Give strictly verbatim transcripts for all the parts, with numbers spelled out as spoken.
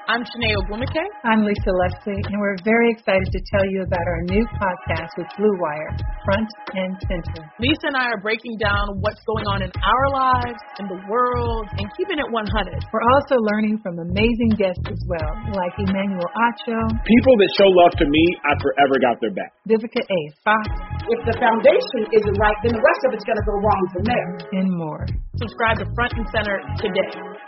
I'm Shanae Ogwumike. I'm Lisa Leslie, and we're very excited to tell you about our new podcast with Blue Wire, Front and Center. Lisa and I are breaking down what's going on in our lives, in the world, and keeping it one hundred. We're also learning from amazing guests as well, like Emmanuel Acho. People that show love to me, I forever got their back. Vivica A. Fox. If the foundation isn't right, then the rest of it's going to go wrong from there. And more. Subscribe to Front and Center today.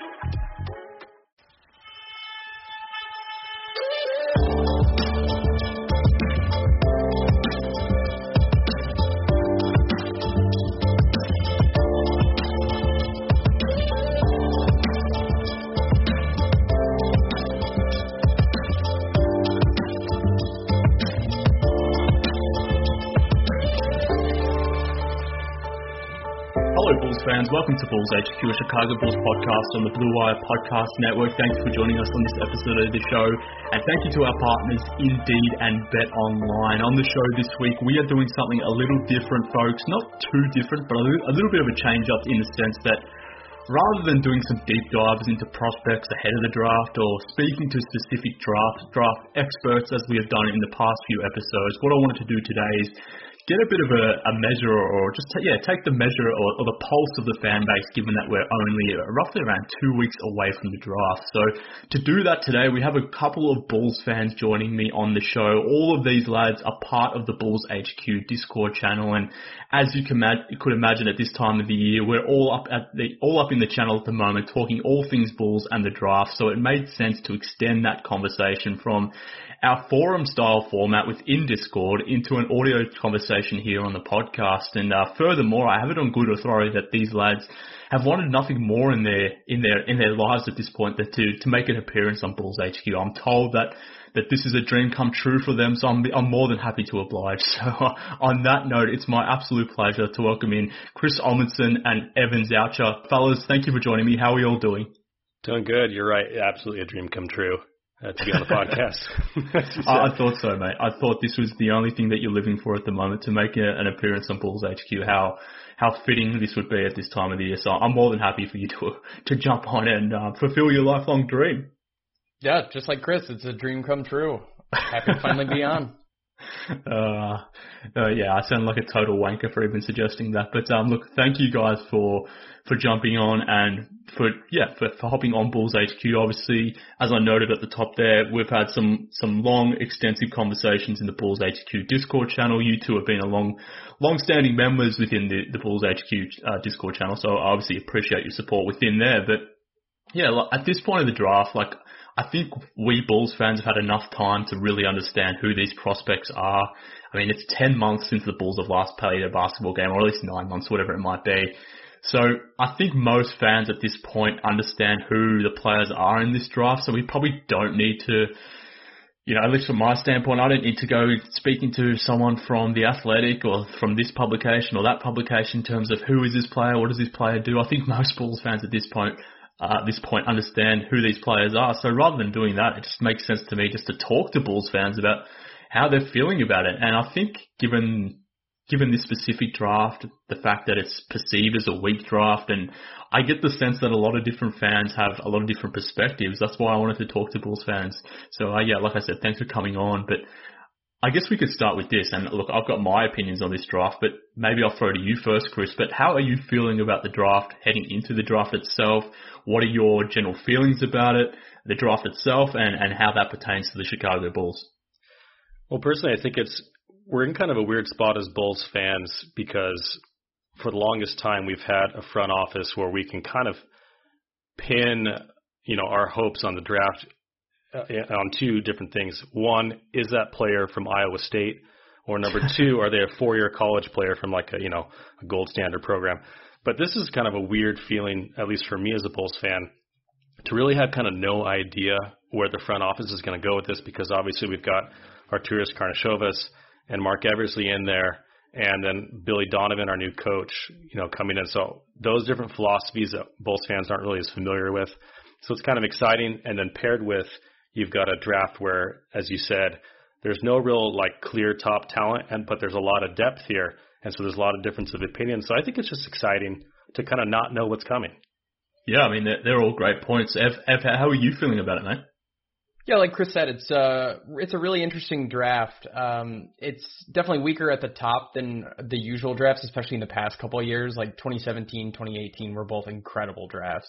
Fans, welcome to Bulls H Q, a Chicago Bulls podcast on the Blue Wire Podcast Network. Thanks for joining us on this episode of the show, and thank you to our partners Indeed and Bet Online. On the show this week, we are doing something a little different, folks. Not too different, but a little bit of a change up in the sense that rather than doing some deep dives into prospects ahead of the draft or speaking to specific draft draft experts as we have done in the past few episodes, what I wanted to do today is get a bit of a, a measure, or just t- yeah, take the measure or, or the pulse of the fan base, given that we're only roughly around two weeks away from the draft. So to do that today, we have a couple of Bulls fans joining me on the show. All of these lads are part of the Bulls H Q Discord channel, and as you, can ma- you could imagine, at this time of the year, we're all up at the all up in the channel at the moment, talking all things Bulls and the draft. So it made sense to extend that conversation from our forum-style format within Discord into an audio conversation here on the podcast. And uh, furthermore, I have it on good authority that these lads have wanted nothing more in their in their in their lives at this point than to to make an appearance on Bulls H Q. I'm told that that this is a dream come true for them, so I'm I'm more than happy to oblige. So uh, on that note, it's my absolute pleasure to welcome in Chris Amundsen and Evan Zoucher. Fellas, thank you for joining me. How are you all doing? Doing good. You're right. Absolutely a dream come true. Uh, to be on the podcast. I, I thought so, mate. I thought this was the only thing that you're living for at the moment, to make a, an appearance on Bulls H Q. How how fitting this would be at this time of the year. So I'm more than happy for you to to jump on and uh, fulfill your lifelong dream. Yeah, just like Chris, it's a dream come true. Happy to finally be on. Uh, uh, yeah, I sound like a total wanker for even suggesting that. But um, look, thank you guys for for jumping on and for yeah for, for hopping on Bulls H Q. Obviously, as I noted at the top there, we've had some some long, extensive conversations in the Bulls H Q Discord channel. You two have been a long, long-standing members within the, the Bulls H Q uh, Discord channel, so I obviously appreciate your support within there. But yeah, like, at this point of the draft, like, I think we Bulls fans have had enough time to really understand who these prospects are. I mean, it's ten months since the Bulls have last played a basketball game, or at least nine months, whatever it might be. So I think most fans at this point understand who the players are in this draft, so we probably don't need to, you know, at least from my standpoint, I don't need to go speaking to someone from The Athletic or from this publication or that publication in terms of who is this player, what does this player do. I think most Bulls fans at this point Uh, at this point understand who these players are. So rather than doing that, it just makes sense to me just to talk to Bulls fans about how they're feeling about it. And I think given given this specific draft, the fact that it's perceived as a weak draft, and I get the sense that a lot of different fans have a lot of different perspectives. That's why I wanted to talk to Bulls fans. So uh, yeah, like I said, thanks for coming on. But I guess we could start with this. And look, I've got my opinions on this draft, but maybe I'll throw to you first, Chris. But how are you feeling about the draft, heading into the draft itself? What are your general feelings about it, the draft itself, and, and how that pertains to the Chicago Bulls? Well, personally, I think it's we're in kind of a weird spot as Bulls fans because for the longest time we've had a front office where we can kind of pin, you know, our hopes on the draft on two different things. One, is that player from Iowa State? Or number two, are they a four-year college player from like a, you know, a gold standard program? But this is kind of a weird feeling, at least for me as a Bulls fan, to really have kind of no idea where the front office is going to go with this, because obviously we've got Arturas Karnisovas and Mark Eversley in there, and then Billy Donovan, our new coach, you know, coming in. So those different philosophies that Bulls fans aren't really as familiar with. So it's kind of exciting. And then paired with, you've got a draft where, as you said, there's no real like clear top talent, and but there's a lot of depth here. And so there's a lot of difference of opinion. So I think it's just exciting to kind of not know what's coming. Yeah, I mean, they're, they're all great points. Ev, Ev, how are you feeling about it, mate? Yeah, like Chris said, it's uh it's a really interesting draft. Um, it's definitely weaker at the top than the usual drafts, especially in the past couple of years. Like twenty seventeen, twenty eighteen were both incredible drafts.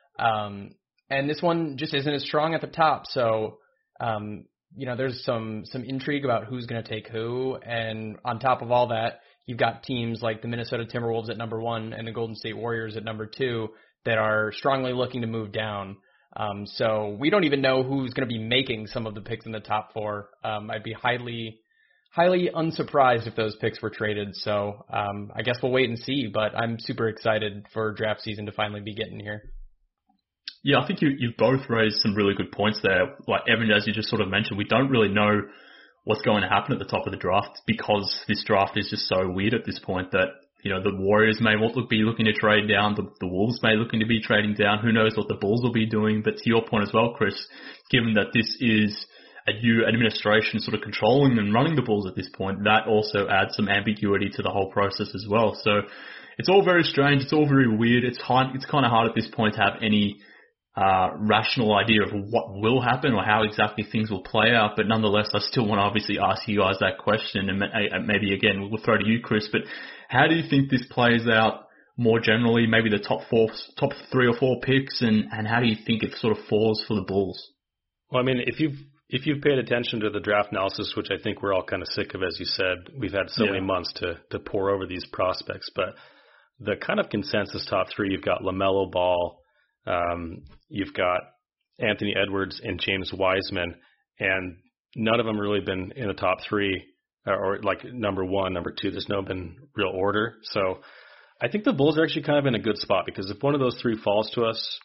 Um, and this one just isn't as strong at the top. So, um, you know, there's some some intrigue about who's going to take who. And on top of all that, you've got teams like the Minnesota Timberwolves at number one and the Golden State Warriors at number two that are strongly looking to move down. Um, so we don't even know who's going to be making some of the picks in the top four. Um, I'd be highly, highly unsurprised if those picks were traded. So um, I guess we'll wait and see, but I'm super excited for draft season to finally be getting here. Yeah, I think you, you've both raised some really good points there. Like, Evan, as you just sort of mentioned, we don't really know what's going to happen at the top of the draft because this draft is just so weird at this point that, you know, the Warriors may be looking to trade down. The, the Wolves may be looking to be trading down. Who knows what the Bulls will be doing. But to your point as well, Chris, given that this is a new administration sort of controlling and running the Bulls at this point, that also adds some ambiguity to the whole process as well. So it's all very strange. It's all very weird. It's hard, it's kind of hard at this point to have any uh rational idea of what will happen or how exactly things will play out. But nonetheless, I still want to obviously ask you guys that question. And maybe, again, we'll throw to you, Chris, but how do you think this plays out more generally, maybe the top four, top three or four picks, and, and how do you think it sort of falls for the Bulls? Well, I mean, if you've if you've paid attention to the draft analysis, which I think we're all kind of sick of, as you said, we've had so yeah. many months to to pour over these prospects, but the kind of consensus top three, you've got LaMelo Ball, um, you've got Anthony Edwards and James Wiseman, and none of them really been in the top three. Or like number one, number two, there's no been real order. So I think the Bulls are actually kind of in a good spot because if one of those three falls to us,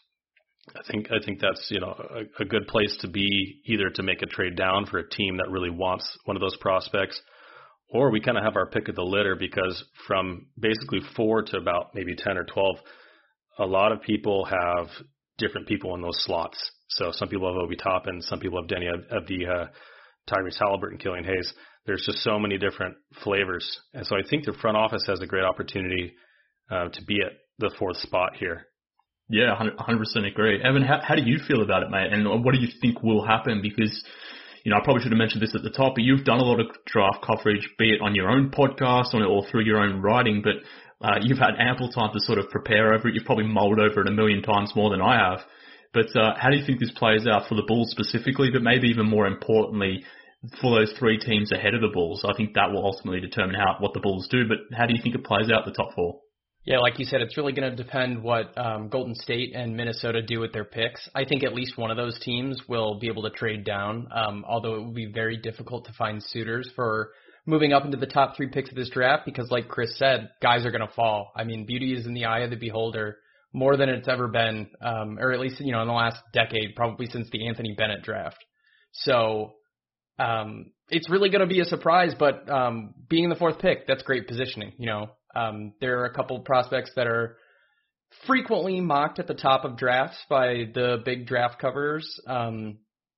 I think I think that's, you know, a, a good place to be, either to make a trade down for a team that really wants one of those prospects, or we kind of have our pick of the litter because from basically four to about maybe ten or twelve, a lot of people have different people in those slots. So some people have Obi Toppin, some people have Denny Avdija, Tyrese Halliburton, Killian Hayes. There's just so many different flavors. And so I think the front office has a great opportunity uh, to be at the fourth spot here. Yeah, one hundred percent agree. Evan, how, how do you feel about it, mate? And what do you think will happen? Because, you know, I probably should have mentioned this at the top, but you've done a lot of draft coverage, be it on your own podcast or, or through your own writing, but uh, you've had ample time to sort of prepare over it. You've probably mulled over it a million times more than I have. But uh, how do you think this plays out for the Bulls specifically, but maybe even more importantly, for those three teams ahead of the Bulls? I think that will ultimately determine how what the Bulls do, but how do you think it plays out the top four? Yeah, like you said, it's really going to depend what um, Golden State and Minnesota do with their picks. I think at least one of those teams will be able to trade down, um, although it will be very difficult to find suitors for moving up into the top three picks of this draft because, like Chris said, guys are going to fall. I mean, beauty is in the eye of the beholder more than it's ever been, um, or at least, you know, in the last decade, probably since the Anthony Bennett draft. So Um, it's really going to be a surprise, but um, being in the fourth pick, that's great positioning. You know, um, there are a couple of prospects that are frequently mocked at the top of drafts by the big draft covers. Um,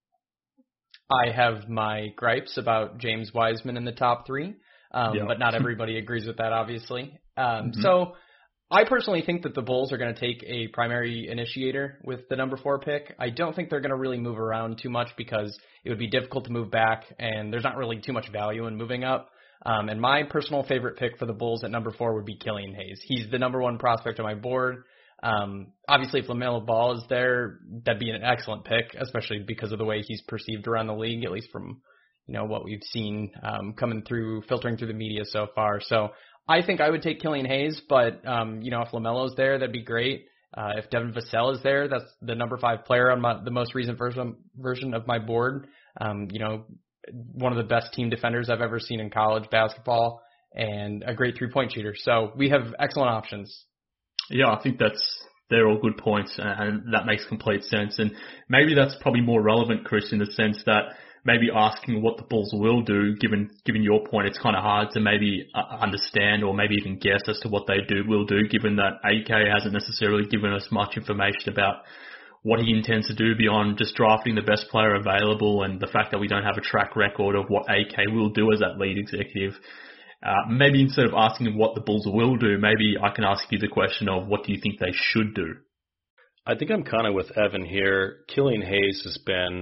I have my gripes about James Wiseman in the top three, um, yeah. but not everybody agrees with that, obviously. Um, mm-hmm. So I personally think that the Bulls are going to take a primary initiator with the number four pick. I don't think they're going to really move around too much because it would be difficult to move back, and there's not really too much value in moving up. Um, and my personal favorite pick for the Bulls at number four would be Killian Hayes. He's the number one prospect on my board. Um, obviously, if LaMelo Ball is there, that'd be an excellent pick, especially because of the way he's perceived around the league, at least from, you know, what we've seen um, coming through, filtering through the media so far. So I think I would take Killian Hayes, but, um, you know, if LaMelo's there, that'd be great. Uh, if Devin Vassell is there, that's the number five player on my, the most recent version, version of my board. Um, you know, one of the best team defenders I've ever seen in college basketball and a great three-point shooter. So we have excellent options. Yeah, I think that's, they're all good points, and that makes complete sense. And maybe that's probably more relevant, Chris, in the sense that maybe asking what the Bulls will do, given given your point, it's kind of hard to maybe understand or maybe even guess as to what they do will do, given that A K hasn't necessarily given us much information about what he intends to do beyond just drafting the best player available, and the fact that we don't have a track record of what A K will do as that lead executive. Uh, maybe instead of asking what the Bulls will do, maybe I can ask you the question of what do you think they should do? I think I'm kind of with Evan here. Killian Hayes has been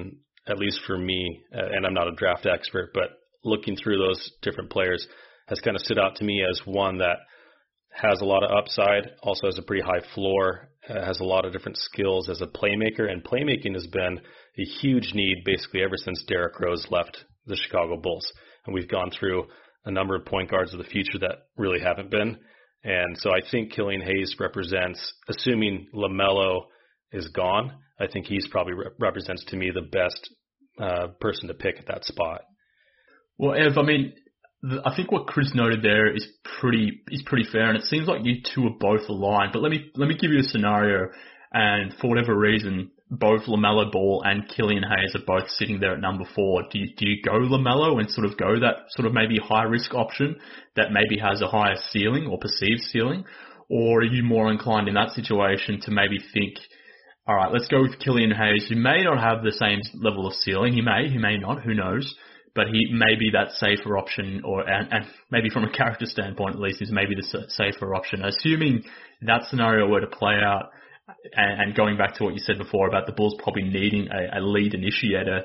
at least for me, uh, and I'm not a draft expert, but looking through those different players has kind of stood out to me as one that has a lot of upside, also has a pretty high floor, uh, has a lot of different skills as a playmaker, and playmaking has been a huge need basically ever since Derrick Rose left the Chicago Bulls. And we've gone through a number of point guards of the future that really haven't been. And so I think Killian Hayes represents, assuming LaMelo is gone, I think he's probably re- represents to me the best uh, person to pick at that spot. Well, Ev, I mean, the, I think what Chris noted there is pretty is pretty fair, and it seems like you two are both aligned. But let me let me give you a scenario, and for whatever reason, both LaMelo Ball and Killian Hayes are both sitting there at number four. Do you, do you go LaMelo and sort of go that sort of maybe high risk option that maybe has a higher ceiling or perceived ceiling? Or are you more inclined in that situation to maybe think, all right, let's go with Killian Hayes, who may not have the same level of ceiling. He may, he may not, who knows? But he may be that safer option, or and, and maybe from a character standpoint at least, is maybe the safer option. Assuming that scenario were to play out, and, and going back to what you said before about the Bulls probably needing a, a lead initiator,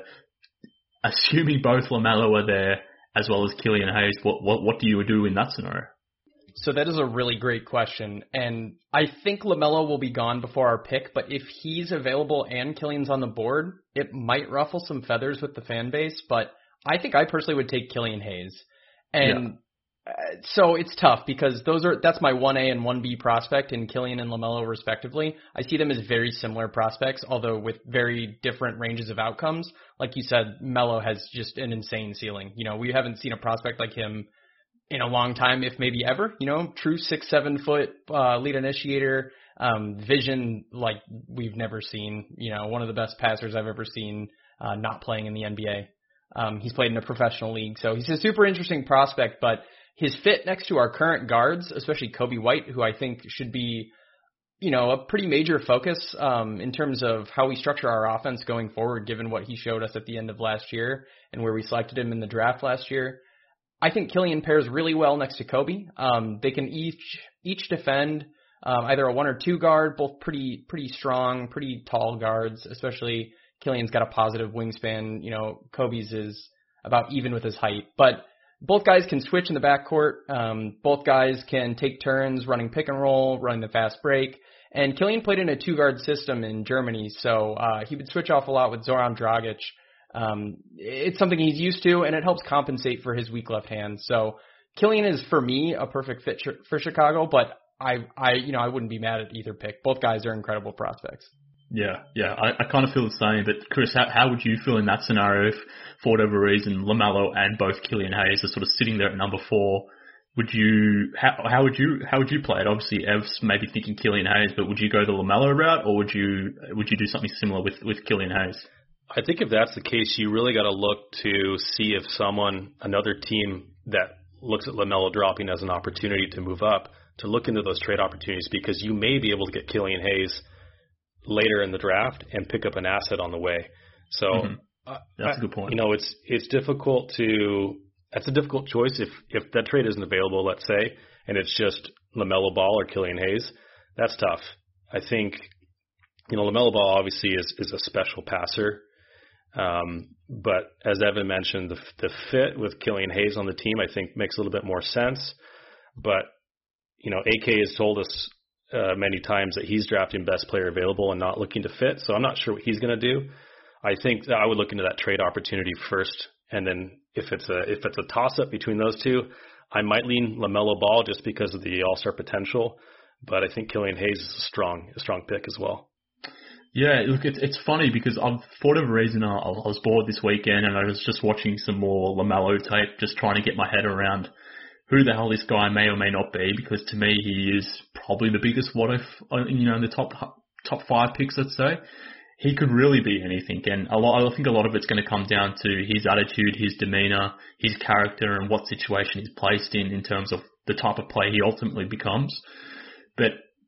assuming both LaMelo are there as well as Killian Hayes, what, what what do you do in that scenario? So that is a really great question, and I think LaMelo will be gone before our pick, but if he's available and Killian's on the board, it might ruffle some feathers with the fan base, but I think I personally would take Killian Hayes. And yeah. uh, so it's tough because those are that's my one A and one B prospect in Killian and LaMelo respectively. I see them as very similar prospects, although with very different ranges of outcomes. Like you said, Melo has just an insane ceiling. You know, we haven't seen a prospect like him in a long time, if maybe ever. You know, true six, seven foot uh, lead initiator, um, vision like we've never seen. You know, one of the best passers I've ever seen uh, not playing in the N B A. Um, he's played in a professional league, so he's a super interesting prospect, but his fit next to our current guards, especially Kobe White, who I think should be, you know, a pretty major focus um, in terms of how we structure our offense going forward, given what he showed us at the end of last year and where we selected him in the draft last year. I think Killian pairs really well next to Kobe. Um, they can each each defend um, either a one or two guard, both pretty pretty strong, pretty tall guards, especially Killian's got a positive wingspan. You know, Kobe's is about even with his height. But both guys can switch in the backcourt. Um, both guys can take turns running pick and roll, running the fast break. And Killian played in a two-guard system in Germany, so uh, he would switch off a lot with Zoran Dragic. Um, it's something he's used to, and it helps compensate for his weak left hand. So Killian is, for me, a perfect fit for Chicago, but I, I, you know, I wouldn't be mad at either pick. Both guys are incredible prospects. Yeah, yeah, I, I kind of feel the same. But Chris, how, how would you feel in that scenario if, for whatever reason, LaMelo and both Killian Hayes are sort of sitting there at number four? Would you how how would you how would you play it? Obviously, Ev's maybe thinking Killian Hayes, but would you go the LaMelo route, or would you would you do something similar with with Killian Hayes? I think if that's the case, you really got to look to see if someone, another team that looks at LaMelo dropping as an opportunity to move up, to look into those trade opportunities, because you may be able to get Killian Hayes later in the draft and pick up an asset on the way. So mm-hmm. uh, that's a good point. You know, it's it's difficult to that's a difficult choice if if that trade isn't available, let's say, and it's just LaMelo Ball or Killian Hayes. That's tough. I think, you know, LaMelo Ball obviously is is a special passer. Um, but as Evan mentioned, the the fit with Killian Hayes on the team, I think, makes a little bit more sense. But, you know, A K has told us uh, many times that he's drafting best player available and not looking to fit. So I'm not sure what he's going to do. I think that I would look into that trade opportunity first. And then if it's a, if it's a toss up between those two, I might lean LaMelo Ball just because of the all-star potential. But I think Killian Hayes is a strong, a strong pick as well. Yeah, look, it's it's funny because I've, for whatever reason, I, I was bored this weekend and I was just watching some more LaMelo tape, just trying to get my head around who the hell this guy may or may not be, because to me he is probably the biggest what if, you know, in the top top five picks, let's say. He could really be anything, and a lot, I think a lot of it's going to come down to his attitude, his demeanor, his character, and what situation he's placed in in terms of the type of player he ultimately becomes. But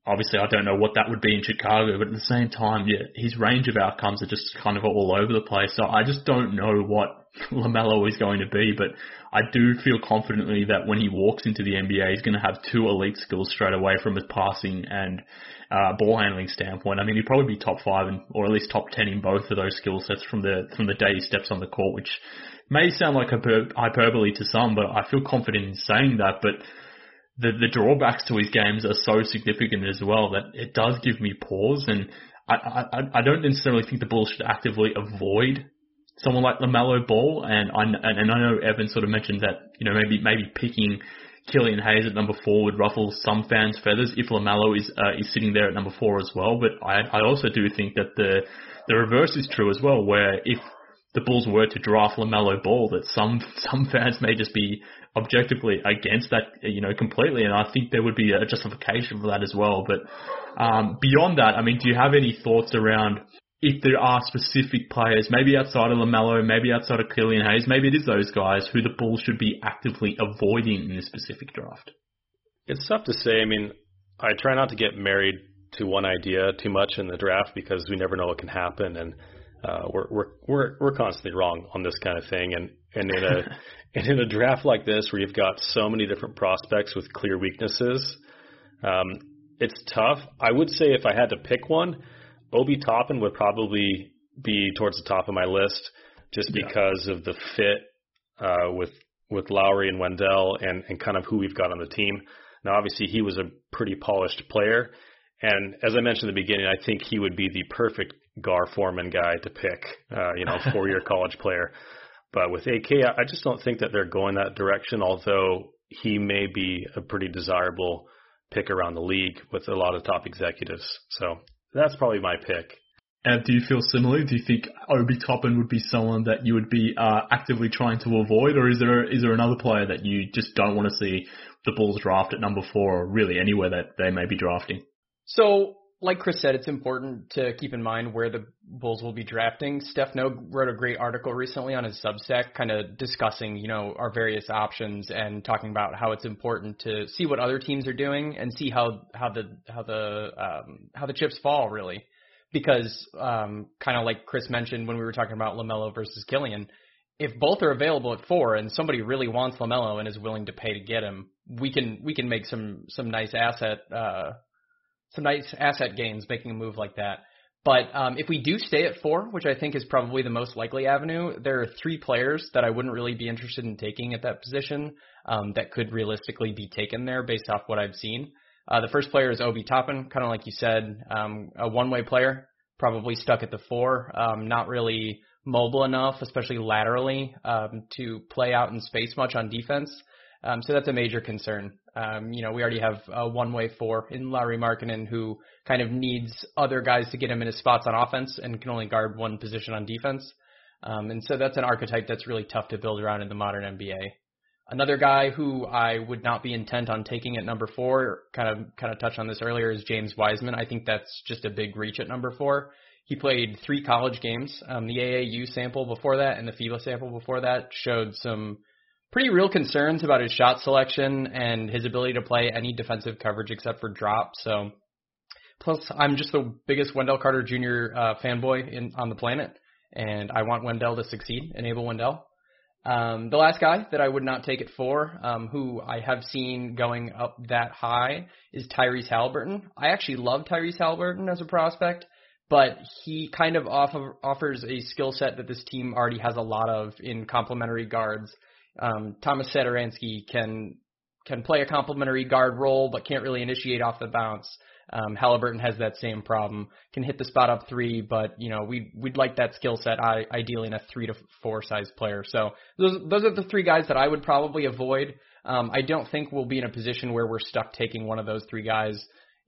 obviously, I don't know what that would be in Chicago, but at the same time, yeah, his range of outcomes are just kind of all over the place. So I just don't know what LaMelo is going to be, but I do feel confidently that when he walks into the N B A, he's going to have two elite skills straight away from his passing and uh, ball handling standpoint. I mean, he'd probably be top five and, or at least top ten in both of those skill sets from the from the day he steps on the court, which may sound like hyper- hyperbole to some, but I feel confident in saying that. But the the drawbacks to his games are so significant as well that it does give me pause, and I I, I don't necessarily think the Bulls should actively avoid someone like LaMelo Ball, and I and I know Evan sort of mentioned that, you know, maybe maybe picking Killian Hayes at number four would ruffle some fans' feathers if LaMelo is uh, is sitting there at number four as well. But I I also do think that the the reverse is true as well, where if the Bulls were to draft LaMelo Ball, that some some fans may just be objectively against that, you know, completely, and I think there would be a justification for that as well. But um, beyond that, I mean, do you have any thoughts around if there are specific players, maybe outside of LaMelo, maybe outside of Killian Hayes, maybe it is those guys who the Bulls should be actively avoiding in this specific draft? It's tough to say. I mean, I try not to get married to one idea too much in the draft because we never know what can happen, and uh, we're we're we're we're constantly wrong on this kind of thing. And and in a and in a draft like this where you've got so many different prospects with clear weaknesses, um, it's tough. I would say if I had to pick one, Obi Toppin would probably be towards the top of my list just yeah. because of the fit uh, with with Lowry and Wendell and, and kind of who we've got on the team. Now, obviously, he was a pretty polished player. And as I mentioned in the beginning, I think he would be the perfect Gar Forman guy to pick, uh, you know, four-year college player. But with A K, I just don't think that they're going that direction, although he may be a pretty desirable pick around the league with a lot of top executives. So that's probably my pick. And do you feel similarly? Do you think Obi Toppin would be someone that you would be uh, actively trying to avoid, or is there is there another player that you just don't want to see the Bulls draft at number four, or really anywhere that they may be drafting? So, like Chris said, it's important to keep in mind where the Bulls will be drafting. Steph Nogue wrote a great article recently on his Substack, kind of discussing, you know, our various options and talking about how it's important to see what other teams are doing and see how how the how the um, how the chips fall, really. Because um, kind of like Chris mentioned when we were talking about LaMelo versus Killian, if both are available at four and somebody really wants LaMelo and is willing to pay to get him, we can we can make some some nice asset uh, some nice asset gains making a move like that. But um, if we do stay at four, which I think is probably the most likely avenue, there are three players that I wouldn't really be interested in taking at that position um, that could realistically be taken there based off what I've seen. Uh, the first player is Obi Toppin, kind of like you said, um, a one-way player, probably stuck at the four, um, not really mobile enough, especially laterally, um, to play out in space much on defense. Um, so that's a major concern. Um, you know, we already have a one-way four in Lauri Markkanen who kind of needs other guys to get him in his spots on offense and can only guard one position on defense. Um, and so that's an archetype that's really tough to build around in the modern N B A. Another guy who I would not be intent on taking at number four, kind of kind of touched on this earlier, is James Wiseman. I think that's just a big reach at number four. He played three college games. Um, the A A U sample before that and the FIBA sample before that showed some pretty real concerns about his shot selection and his ability to play any defensive coverage except for drop. So, plus I'm just the biggest Wendell Carter Junior uh, fanboy in, on the planet, and I want Wendell to succeed, enable Wendell. Um, the last guy that I would not take at four, um, who I have seen going up that high, is Tyrese Haliburton. I actually love Tyrese Haliburton as a prospect, but he kind of offer, offers a skill set that this team already has a lot of in complementary guards. Um, Thomas Satoransky can can play a complementary guard role, but can't really initiate off the bounce. Um, Haliburton has that same problem. Can hit the spot up three, but you know we we'd, we'd like that skill set I, ideally in a three to four size player. So those those are the three guys that I would probably avoid. Um, I don't think we'll be in a position where we're stuck taking one of those three guys.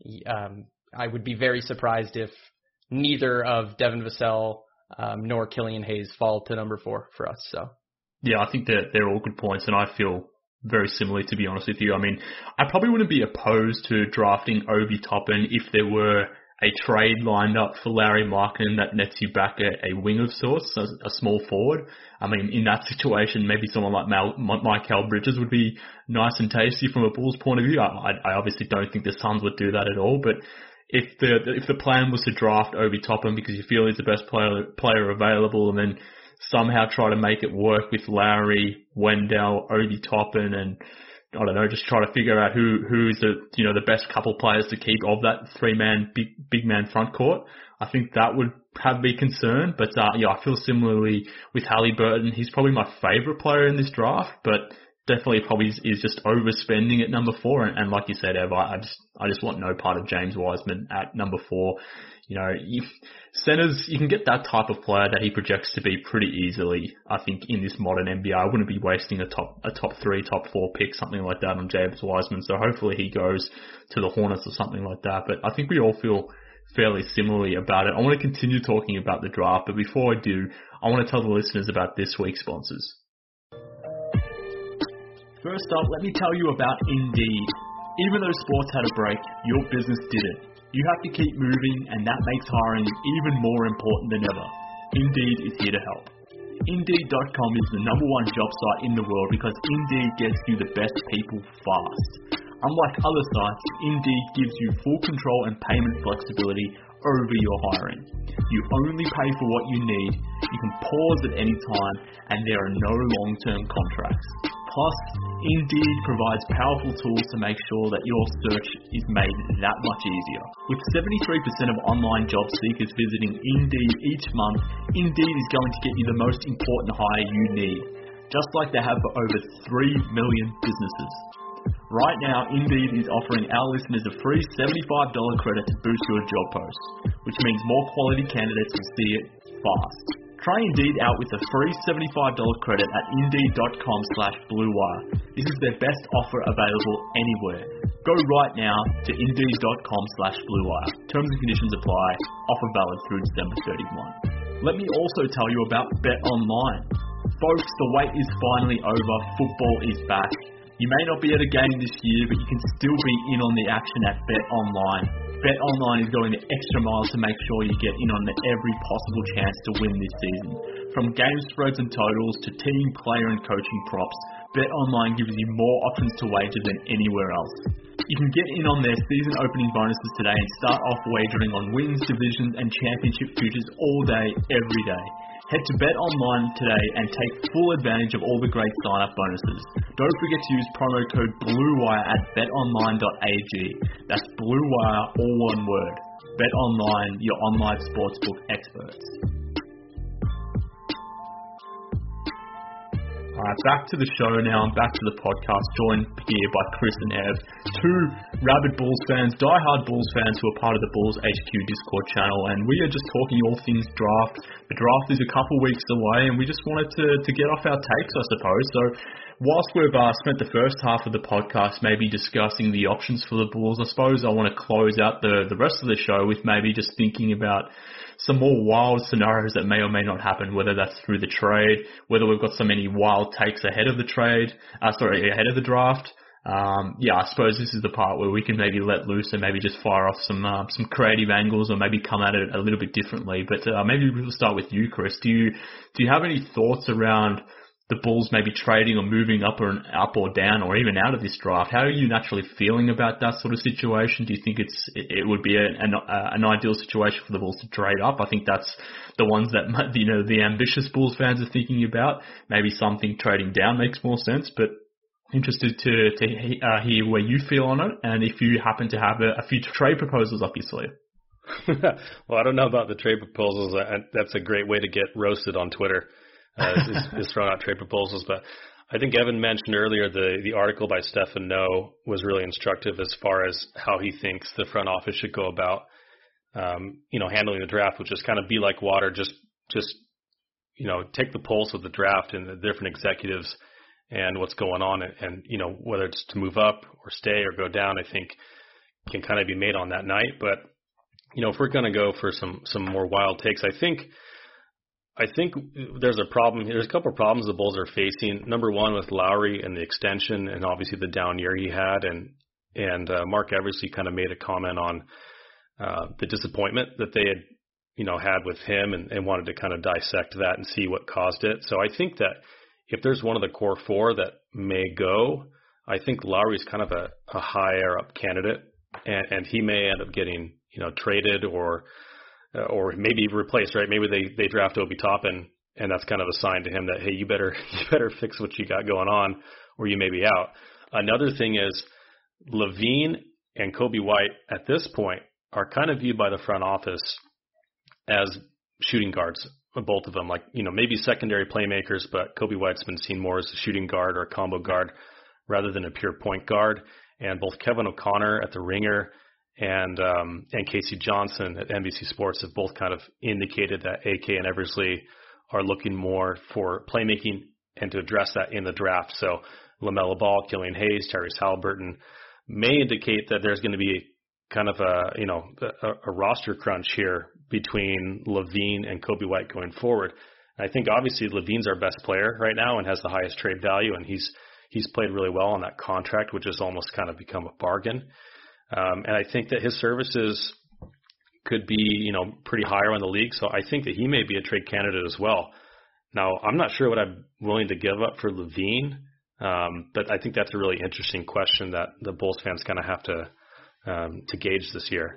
Um, I would be very surprised if neither of Devin Vassell um, nor Killian Hayes fall to number four for us. So yeah, I think that they're all good points, and I feel very similarly, to be honest with you. I mean, I probably wouldn't be opposed to drafting Obi Toppin if there were a trade lined up for Lauri Markkanen that nets you back a, a wing of sorts, a, a small forward. I mean, in that situation, maybe someone like Mal, Mikal Bridges would be nice and tasty from a Bulls point of view. I, I obviously don't think the Suns would do that at all, but if the if the plan was to draft Obi Toppin because you feel he's the best player player available, and then somehow try to make it work with Lowry, Wendell, Obi Toppin, and I don't know, just try to figure out who who is the you know the best couple players to keep of that three man big big man front court. I think that would have me concerned. But uh, yeah, I feel similarly with Haliburton. He's probably my favourite player in this draft, but definitely probably is, is just overspending at number four. And, and like you said, Ev, I, I just I just want no part of James Wiseman at number four. You know, you, centers, you can get that type of player that he projects to be pretty easily. I think in this modern N B A, I wouldn't be wasting a top a top three, top four pick, something like that on James Wiseman. So hopefully he goes to the Hornets or something like that. But I think we all feel fairly similarly about it. I want to continue talking about the draft, but before I do, I want to tell the listeners about this week's sponsors. First up, let me tell you about Indeed. Even though sports had a break, your business didn't. You have to keep moving, and that makes hiring even more important than ever. Indeed is here to help. Indeed dot com is the number one job site in the world because Indeed gets you the best people fast. Unlike other sites, Indeed gives you full control and payment flexibility over your hiring. You only pay for what you need, you can pause at any time, and there are no long-term contracts. Plus, Indeed provides powerful tools to make sure that your search is made that much easier. With seventy-three percent of online job seekers visiting Indeed each month, Indeed is going to get you the most important hire you need, just like they have for over three million businesses. Right now, Indeed is offering our listeners a free seventy-five dollars credit to boost your job post, which means more quality candidates will see it fast. Try Indeed out with a free seventy-five dollars credit at Indeed dot com slash Blue Wire. This is their best offer available anywhere. Go right now to Indeed dot com slash Blue Wire. Terms and conditions apply. Offer valid through December thirty-first. Let me also tell you about BetOnline. Folks, the wait is finally over. Football is back. You may not be at a game this year, but you can still be in on the action at BetOnline. BetOnline is going the extra mile to make sure you get in on every possible chance to win this season. From game spreads and totals to team, player and coaching props, BetOnline gives you more options to wager than anywhere else. You can get in on their season opening bonuses today and start off wagering on wins, divisions and championship futures all day, every day. Head to BetOnline today and take full advantage of all the great sign-up bonuses. Don't forget to use promo code BLUEWIRE at bet online dot a g. That's BLUEWIRE, all one word. BetOnline, your online sportsbook experts. Alright, back to the show now. I'm back to the podcast, joined here by Chris and Ev, two rabid Bulls fans, die-hard Bulls fans who are part of the Bulls H Q Discord channel, and we are just talking all things draft. The draft is a couple weeks away, and we just wanted to, to get off our takes, I suppose. So, whilst we've uh, spent the first half of the podcast maybe discussing the options for the Bulls, I suppose I want to close out the, the rest of the show with maybe just thinking about some more wild scenarios that may or may not happen, whether that's through the trade, whether we've got so many wild takes ahead of the trade, uh, sorry, ahead of the draft. Um, yeah, I suppose this is the part where we can maybe let loose and maybe just fire off some uh, some creative angles or maybe come at it a little bit differently. But uh, maybe we'll start with you, Chris. Do you do you have any thoughts around the Bulls maybe trading or moving up or up or down or even out of this draft? How are you naturally feeling about that sort of situation? Do you think it's it would be a, an, uh, an ideal situation for the Bulls to trade up? I think that's the ones that you know the ambitious Bulls fans are thinking about. Maybe something trading down makes more sense, but interested to to uh, hear where you feel on it and if you happen to have a, a few trade proposals up your sleeve. Well, I don't know about the trade proposals. That's a great way to get roasted on Twitter. Uh, is, is throwing out trade proposals, but I think Evan mentioned earlier the the article by Stefan No was really instructive as far as how he thinks the front office should go about, um, you know, handling the draft, which is kind of be like water, just just you know, take the pulse of the draft and the different executives and what's going on, and, and you know, whether it's to move up or stay or go down, I think can kind of be made on that night. But you know, if we're going to go for some some more wild takes, I think. I think there's a problem. There's a couple of problems the Bulls are facing. Number one with Lowry and the extension, and obviously the down year he had, and and uh, Mark Eversley kind of made a comment on uh, the disappointment that they had, you know, had with him and, and wanted to kind of dissect that and see what caused it. So I think that if there's one of the core four that may go, I think Lowry's kind of a, a higher up candidate, and, and he may end up getting, you know, traded or uh, or maybe replaced, right? Maybe they, they draft Obi Toppin, and that's kind of a sign to him that, hey, you better you better fix what you got going on, or you may be out. Another thing is LaVine and Coby White at this point are kind of viewed by the front office as shooting guards, both of them. Like, you know, maybe secondary playmakers, but Coby White's been seen more as a shooting guard or a combo guard rather than a pure point guard. And both Kevin O'Connor at the Ringer and um, and Casey Johnson at N B C Sports have both kind of indicated that A K and Eversley are looking more for playmaking and to address that in the draft. So LaMelo Ball, Killian Hayes, Tyrese Halliburton may indicate that there's going to be kind of a, you know, a, a roster crunch here between LaVine and Coby White going forward. And I think obviously LaVine's our best player right now and has the highest trade value, and he's he's played really well on that contract, which has almost kind of become a bargain. Um, and I think that his services could be, you know, pretty high around the league. So I think that he may be a trade candidate as well. Now, I'm not sure what I'm willing to give up for LaVine, um, but I think that's a really interesting question that the Bulls fans kind of have to um, to gauge this year.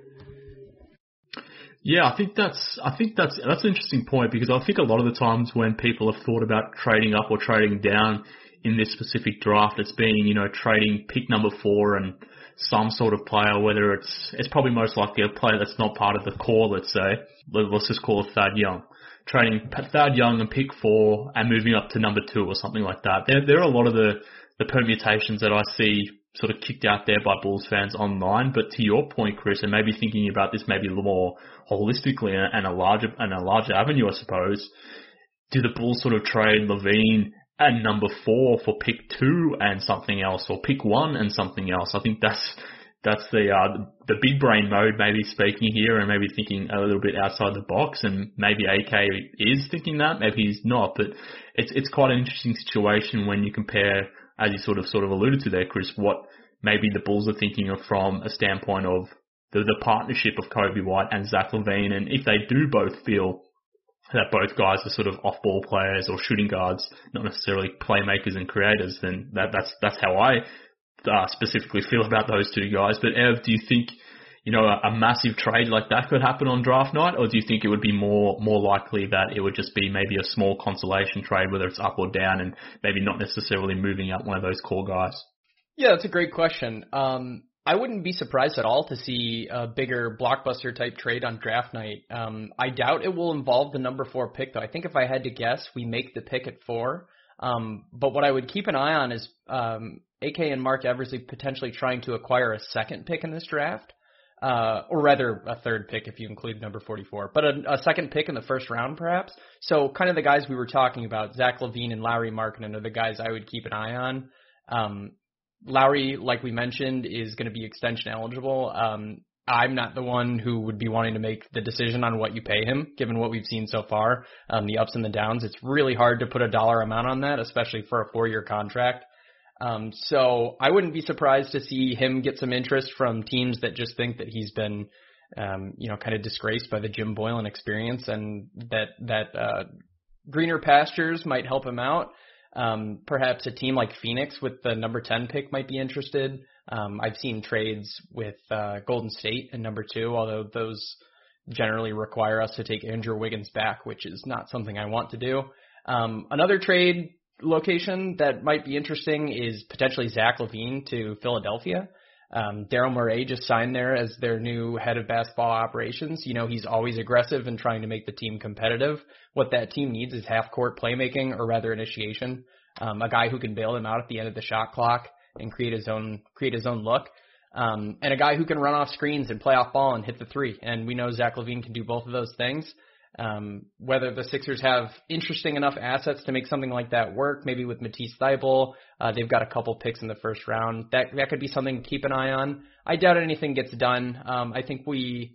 Yeah, I think that's I think that's that's an interesting point, because I think a lot of the times when people have thought about trading up or trading down in this specific draft, it's been, you know, trading pick number four and some sort of player, whether it's it's probably most likely a player that's not part of the core, let's say. Let's just call it Thad Young. Trading Thad Young and pick four and moving up to number two or something like that. There, there are a lot of the, the permutations that I see sort of kicked out there by Bulls fans online. But to your point, Chris, and maybe thinking about this maybe a little more holistically and a larger and a larger avenue, I suppose, do the Bulls sort of trade LaVine and number four for pick two and something else, or pick one and something else? I think that's that's the uh, the big brain mode, maybe speaking here, and maybe thinking a little bit outside the box. And maybe A K is thinking that, maybe he's not. But it's it's quite an interesting situation when you compare, as you sort of sort of alluded to there, Chris, what maybe the Bulls are thinking of from a standpoint of the, the partnership of Coby White and Zach LaVine, and if they do both feel that both guys are sort of off-ball players or shooting guards, not necessarily playmakers and creators, then that, that's that's how I uh, specifically feel about those two guys. But Ev, do you think, you know, a, a massive trade like that could happen on draft night, or do you think it would be more more likely that it would just be maybe a small consolation trade, whether it's up or down, and maybe not necessarily moving up one of those core guys? Yeah, that's a great question. Um, I wouldn't be surprised at all to see a bigger blockbuster type trade on draft night. Um, I doubt it will involve the number four pick, though. I think if I had to guess, we make the pick at four. Um, but what I would keep an eye on is um, A K and Mark Eversley potentially trying to acquire a second pick in this draft, uh, or rather a third pick if you include number forty-four, but a, a second pick in the first round perhaps. So kind of the guys we were talking about, Zach LaVine and Lauri Markkanen, are the guys I would keep an eye on. Um, Lauri, like we mentioned, is going to be extension eligible. Um, I'm not the one who would be wanting to make the decision on what you pay him, given what we've seen so far, um, the ups and the downs. It's really hard to put a dollar amount on that, especially for a four-year contract. Um, so I wouldn't be surprised to see him get some interest from teams that just think that he's been, um, you know, kind of disgraced by the Jim Boylen experience, and that that uh, greener pastures might help him out. Um, perhaps a team like Phoenix with the number ten pick might be interested. Um, I've seen trades with uh, Golden State and number two, although those generally require us to take Andrew Wiggins back, which is not something I want to do. Um, another trade location that might be interesting is potentially Zach LaVine to Philadelphia. Um, Daryl Morey just signed there as their new head of basketball operations. You know, he's always aggressive and trying to make the team competitive. What that team needs is half-court playmaking, or rather initiation. Um, a guy who can bail them out at the end of the shot clock and create his own create his own look. Um, and a guy who can run off screens and play off ball and hit the three. And we know Zach LaVine can do both of those things. Um, whether the Sixers have interesting enough assets to make something like that work, maybe with Matisse Thybulle, uh, they've got a couple picks in the first round. That that could be something to keep an eye on. I doubt anything gets done. Um, I think we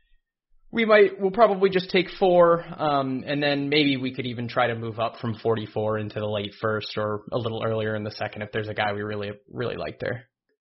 we might we'll probably just take four, um, and then maybe we could even try to move up from forty-four into the late first or a little earlier in the second if there's a guy we really really like there.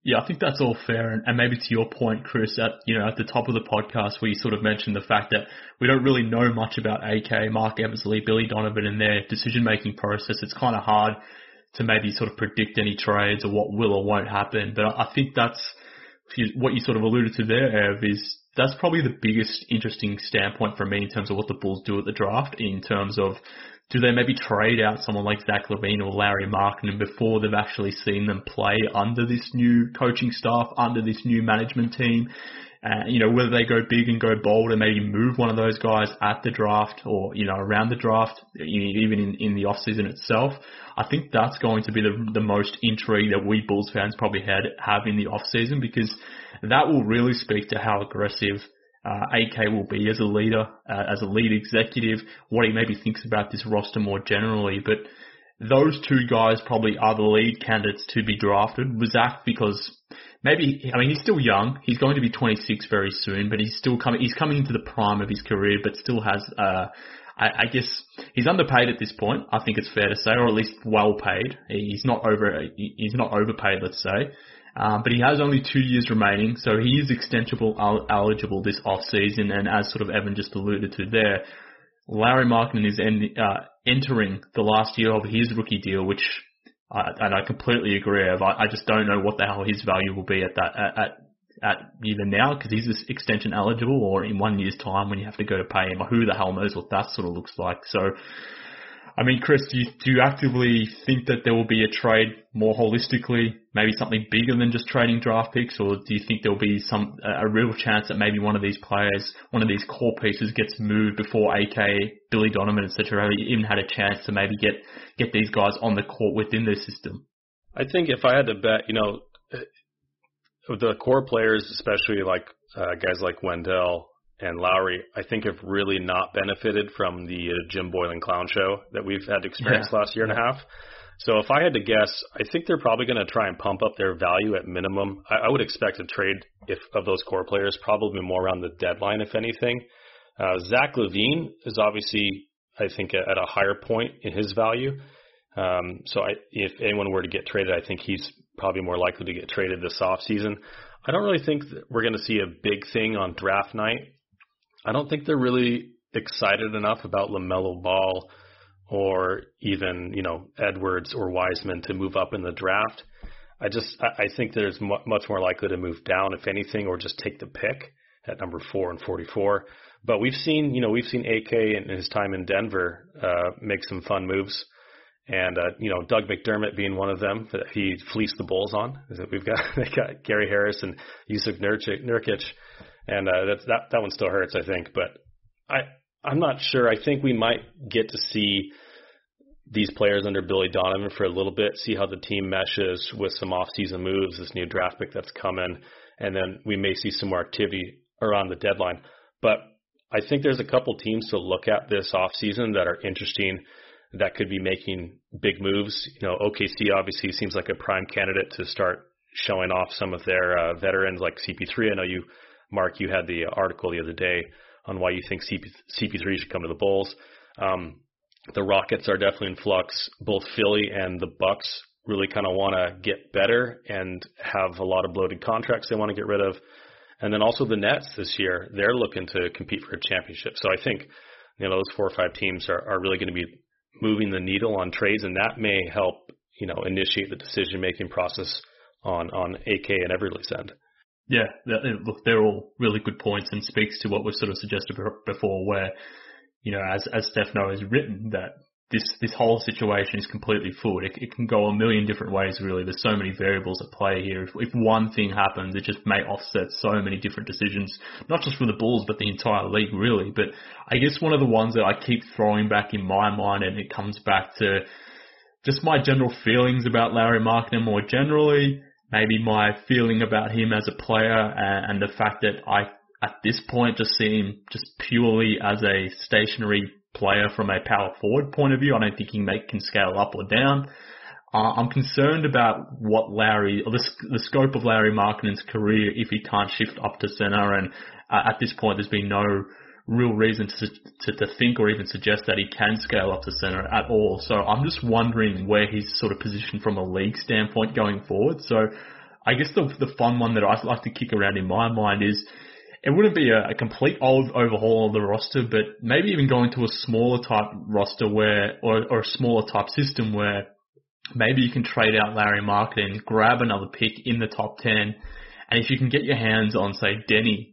Yeah, I think that's all fair. And, and maybe to your point, Chris, at, you know, at the top of the podcast where you sort of mentioned the fact that we don't really know much about A K, Mark Eversley, Billy Donovan and their decision-making process. It's kind of hard to maybe sort of predict any trades or what will or won't happen. But I think that's what you sort of alluded to there, Ev, is that's probably the biggest interesting standpoint for me in terms of what the Bulls do at the draft, in terms of do they maybe trade out someone like Zach LaVine or Larry Markkinen before they've actually seen them play under this new coaching staff, under this new management team? Uh, you know, whether they go big and go bold and maybe move one of those guys at the draft or, you know, around the draft, even in, in the off-season itself. I think that's going to be the, the most intrigue that we Bulls fans probably had, have in the off-season, because that will really speak to how aggressive uh, A K will be as a leader, uh, as a lead executive, what he maybe thinks about this roster more generally. But those two guys probably are the lead candidates to be drafted. With Zach, because maybe, I mean, he's still young. He's going to be twenty-six very soon, but he's still coming, he's coming into the prime of his career, but still has, uh, I, I guess he's underpaid at this point. I think it's fair to say, or at least well paid. He's not over, he's not overpaid, let's say. Um, but he has only two years remaining, so he is extensible eligible this off season. And as sort of Evan just alluded to there, Larry Markkinen is en- uh, entering the last year of his rookie deal, which, uh, and I completely agree. I, I just don't know what the hell his value will be at that at at, at either now, because he's this extension eligible, or in one year's time when you have to go to pay him. Who the hell knows what that sort of looks like? So, I mean, Chris, do you, do you actively think that there will be a trade more holistically, maybe something bigger than just trading draft picks, or do you think there will be some a real chance that maybe one of these players, one of these core pieces gets moved before A K, Billy Donovan, et cetera, even had a chance to maybe get, get these guys on the court within their system? I think if I had to bet, you know, the core players, especially like uh, guys like Wendell and Lowry, I think have really not benefited from the uh, Jim Boylan clown show that we've had to experience yeah. last year and a half. So if I had to guess, I think they're probably going to try and pump up their value at minimum. I, I would expect a trade if of those core players, probably more around the deadline, if anything. Uh, Zach LaVine is obviously, I think, at a higher point in his value. Um, so I, if anyone were to get traded, I think he's probably more likely to get traded this offseason. I don't really think that we're going to see a big thing on draft night. I don't think they're really excited enough about LaMelo Ball or even, you know, Edwards or Wiseman to move up in the draft. I just, I think there's mu- much more likely to move down, if anything, or just take the pick at number four and forty-four. But we've seen, you know, we've seen A K in his time in Denver uh, make some fun moves. And, uh, you know, Doug McDermott being one of them that he fleeced the Bulls on. We've got, they got Gary Harris and Yusuf Nurkic. And uh, that's, that that one still hurts, I think. But I, I'm not sure. I think we might get to see these players under Billy Donovan for a little bit, see how the team meshes with some off-season moves, this new draft pick that's coming, and then we may see some more activity around the deadline. But I think there's a couple teams to look at this off-season that are interesting, that could be making big moves. You know, O K C obviously seems like a prime candidate to start showing off some of their uh, veterans like C P three. I know you, Mark, you had the article the other day on why you think C P three should come to the Bulls. Um, the Rockets are definitely in flux. Both Philly and the Bucks really kind of want to get better and have a lot of bloated contracts they want to get rid of. And then also the Nets this year, they're looking to compete for a championship. So I think, you know, those four or five teams are, are really going to be moving the needle on trades, and that may help, you know, initiate the decision-making process on, on A K and Everly's end. Yeah, look, they're all really good points and speaks to what we've sort of suggested before where, you know, as as Stefano has written, that this this whole situation is completely fluid. It, it can go a million different ways, really. There's so many variables at play here. If, if one thing happens, it just may offset so many different decisions, not just for the Bulls, but the entire league, really. But I guess one of the ones that I keep throwing back in my mind, and it comes back to just my general feelings about Larry Markkinen more generally, maybe my feeling about him as a player, and, and the fact that I, at this point, just see him just purely as a stationary player from a power forward point of view. I don't think he make, can scale up or down. Uh, I'm concerned about what Larry, or the, the scope of Larry Markkinen's career if he can't shift up to center. And uh, at this point, there's been no real reason to, to to think or even suggest that he can scale up to center at all. So I'm just wondering where he's sort of positioned from a league standpoint going forward. So I guess the the fun one that I'd like to kick around in my mind is it wouldn't be a, a complete old overhaul of the roster, but maybe even going to a smaller type roster where, or, or a smaller type system where maybe you can trade out Larry Markkinen, grab another pick in the top ten, and if you can get your hands on, say, Denny,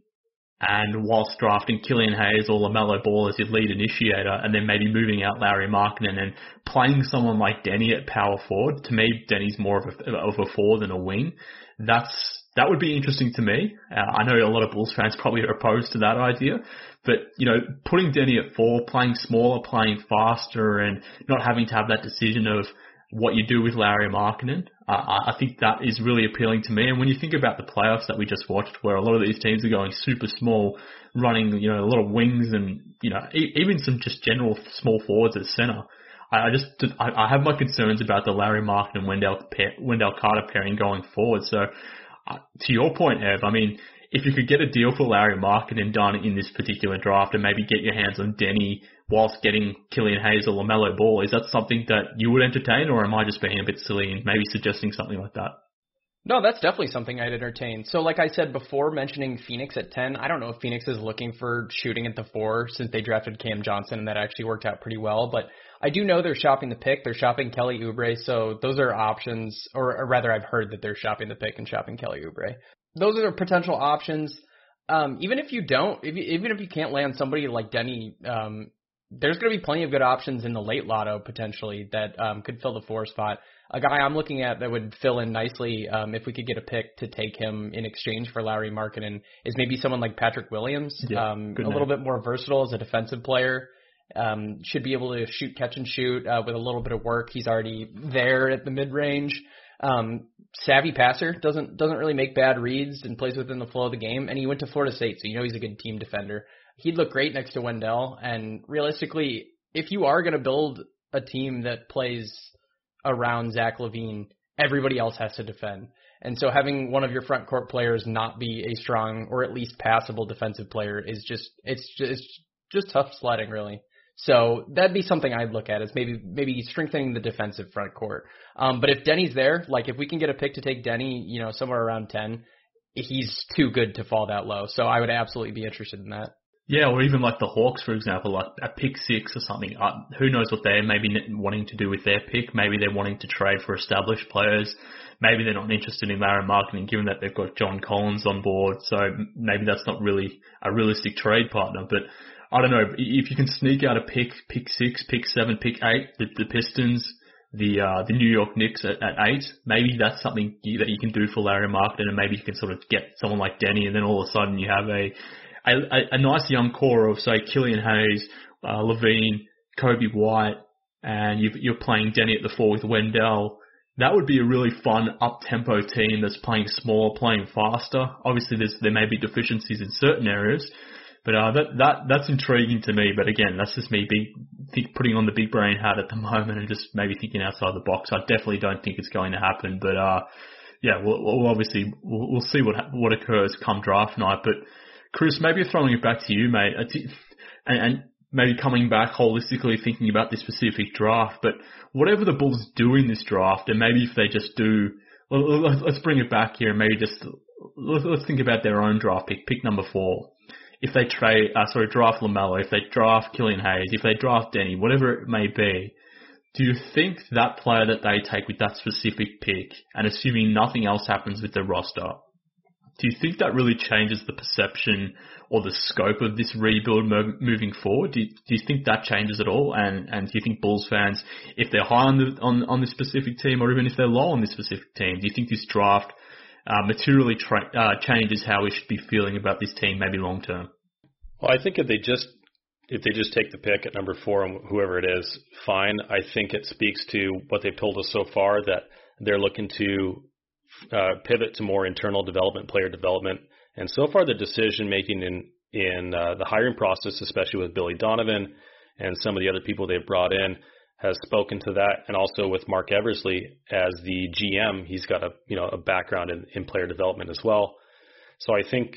and whilst drafting Killian Hayes or LaMelo Ball as your lead initiator, and then maybe moving out Larry Markkinen and playing someone like Denny at power forward. To me, Denny's more of a, of a forward than a wing. That's that would be interesting to me. Uh, I know a lot of Bulls fans probably are opposed to that idea, but you know, putting Denny at four, playing smaller, playing faster, and not having to have that decision of what you do with Larry Markkinen, uh, I think that is really appealing to me. And when you think about the playoffs that we just watched, where a lot of these teams are going super small, running, you know, a lot of wings and, you know, e- even some just general small forwards at center, I, I just, I, I have my concerns about the Larry Markkinen Wendell, pair, Wendell Carter pairing going forward. So, uh, to your point, Ev, I mean, if you could get a deal for Larry Markkinen done in this particular draft and maybe get your hands on Denny whilst getting Killian Hayes or LaMelo Ball, is that something that you would entertain, or am I just being a bit silly and maybe suggesting something like that? No, that's definitely something I'd entertain. So like I said before, mentioning Phoenix at ten, I don't know if Phoenix is looking for shooting at the four since they drafted Cam Johnson, and that actually worked out pretty well. But I do know they're shopping the pick. They're shopping Kelly Oubre, so those are options, or, or rather I've heard that they're shopping the pick and shopping Kelly Oubre. Those are potential options. Um, even if you don't, if you, even if you can't land somebody like Denny, um, there's going to be plenty of good options in the late lotto potentially that um, could fill the four spot. A guy I'm looking at that would fill in nicely um, if we could get a pick to take him in exchange for Larry Markkinen is maybe someone like Patrick Williams, yeah, um, a name. little bit more versatile as a defensive player. Um, should be able to shoot, catch, and shoot uh, with a little bit of work. He's already there at the mid-range. Um, savvy passer, doesn't doesn't really make bad reads and plays within the flow of the game. And he went to Florida State, so you know he's a good team defender. He'd look great next to Wendell. And realistically, if you are going to build a team that plays around Zach LaVine, everybody else has to defend. And so having one of your front court players not be a strong or at least passable defensive player is just it's just it's just tough sledding, really. So that'd be something I'd look at is maybe maybe strengthening the defensive front court. Um, but if Denny's there, like if we can get a pick to take Denny, you know, somewhere around ten, he's too good to fall that low. So I would absolutely be interested in that. Yeah, or even like the Hawks, for example, like a pick six or something. Uh, who knows what they're maybe wanting to do with their pick. Maybe they're wanting to trade for established players. Maybe they're not interested in Larry Markkinen, given that they've got John Collins on board. So maybe that's not really a realistic trade partner. But I don't know, if you can sneak out a pick, pick six, pick seven, pick eight, the, the Pistons, the uh, the New York Knicks at, at eight, maybe that's something you, that you can do for Larry Markkinen, and maybe you can sort of get someone like Denny, and then all of a sudden you have a a, a nice young core of, say, Killian Hayes, uh, LaVine, Kobe White, and you've, you're playing Denny at the four with Wendell. That would be a really fun up-tempo team that's playing smaller, playing faster. Obviously, there's, there may be deficiencies in certain areas, but uh, that that that's intriguing to me. But again, that's just me big, think, putting on the big brain hat at the moment and just maybe thinking outside the box. I definitely don't think it's going to happen. But uh, yeah, we'll, we'll obviously we'll, we'll see what what occurs come draft night. But Chris, maybe throwing it back to you, mate, and, and maybe coming back holistically thinking about this specific draft. But whatever the Bulls do in this draft, and maybe if they just do, well, let's bring it back here and maybe just let's think about their own draft pick, pick number four. If they trade, uh, sorry, draft LaMelo, if they draft Killian Hayes, if they draft Denny, whatever it may be, do you think that player that they take with that specific pick, and assuming nothing else happens with the roster, do you think that really changes the perception or the scope of this rebuild mo- moving forward? Do you, do you think that changes at all? And and do you think Bulls fans, if they're high on the on, on this specific team, or even if they're low on this specific team, do you think this draft Uh, materially tra- uh, changes how we should be feeling about this team, maybe long term? Well, I think if they just if they just take the pick at number four and whoever it is, fine. I think it speaks to what they've told us so far, that they're looking to uh, pivot to more internal development, player development, and so far the decision making in in uh, the hiring process, especially with Billy Donovan and some of the other people they've brought in, has spoken to that, and also with Mark Eversley as the G M, he's got a you know a background in, in player development as well. So I think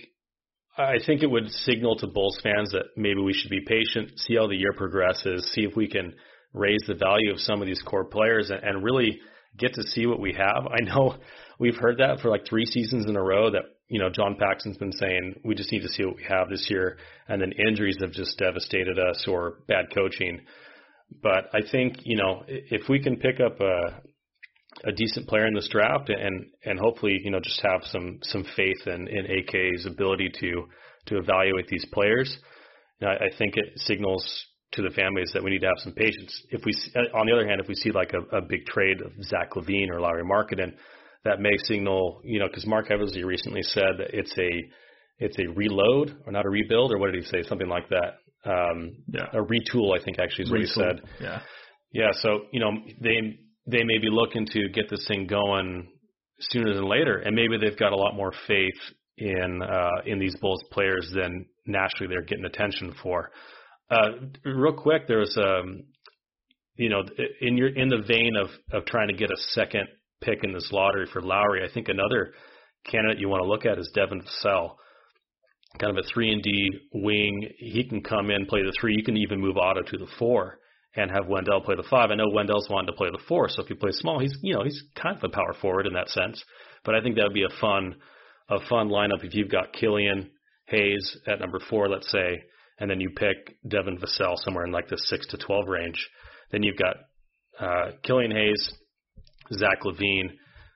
I think it would signal to Bulls fans that maybe we should be patient, see how the year progresses, see if we can raise the value of some of these core players, and, and really get to see what we have. I know we've heard that for like three seasons in a row that, you know, John Paxson's been saying we just need to see what we have this year, and then injuries have just devastated us or bad coaching. But I think, you know, if we can pick up a a decent player in this draft and, and hopefully, you know, just have some, some faith in, in A K's ability to, to evaluate these players, you know, I, I think it signals to the fan base that we need to have some patience. If we, on the other hand, if we see like a, a big trade of Zach LaVine or Lauri Markkanen, that may signal, you know, because Mark Eversley recently said that it's a, it's a reload or not a rebuild, or what did he say? Something like that. Um, yeah. A retool, I think actually is what retool. he said. Yeah. Yeah. So, you know, they, they may be looking to get this thing going sooner than later, and maybe they've got a lot more faith in uh, in these Bulls players than naturally they're getting attention for. Uh, real quick, there was, um, you know, in your in the vein of of trying to get a second pick in this lottery for Lowry, I think another candidate you want to look at is Devin Vassell, kind of a three and D wing. He can come in, play the three. You can even move Otto to the four and have Wendell play the five. I know Wendell's wanting to play the four, so if he plays small, he's, you know, he's kind of a power forward in that sense. But I think that would be a fun, a fun lineup if you've got Killian Hayes at number four, let's say, and then you pick Devin Vassell somewhere in like the six to twelve range. Then you've got uh, Killian Hayes, Zach LaVine,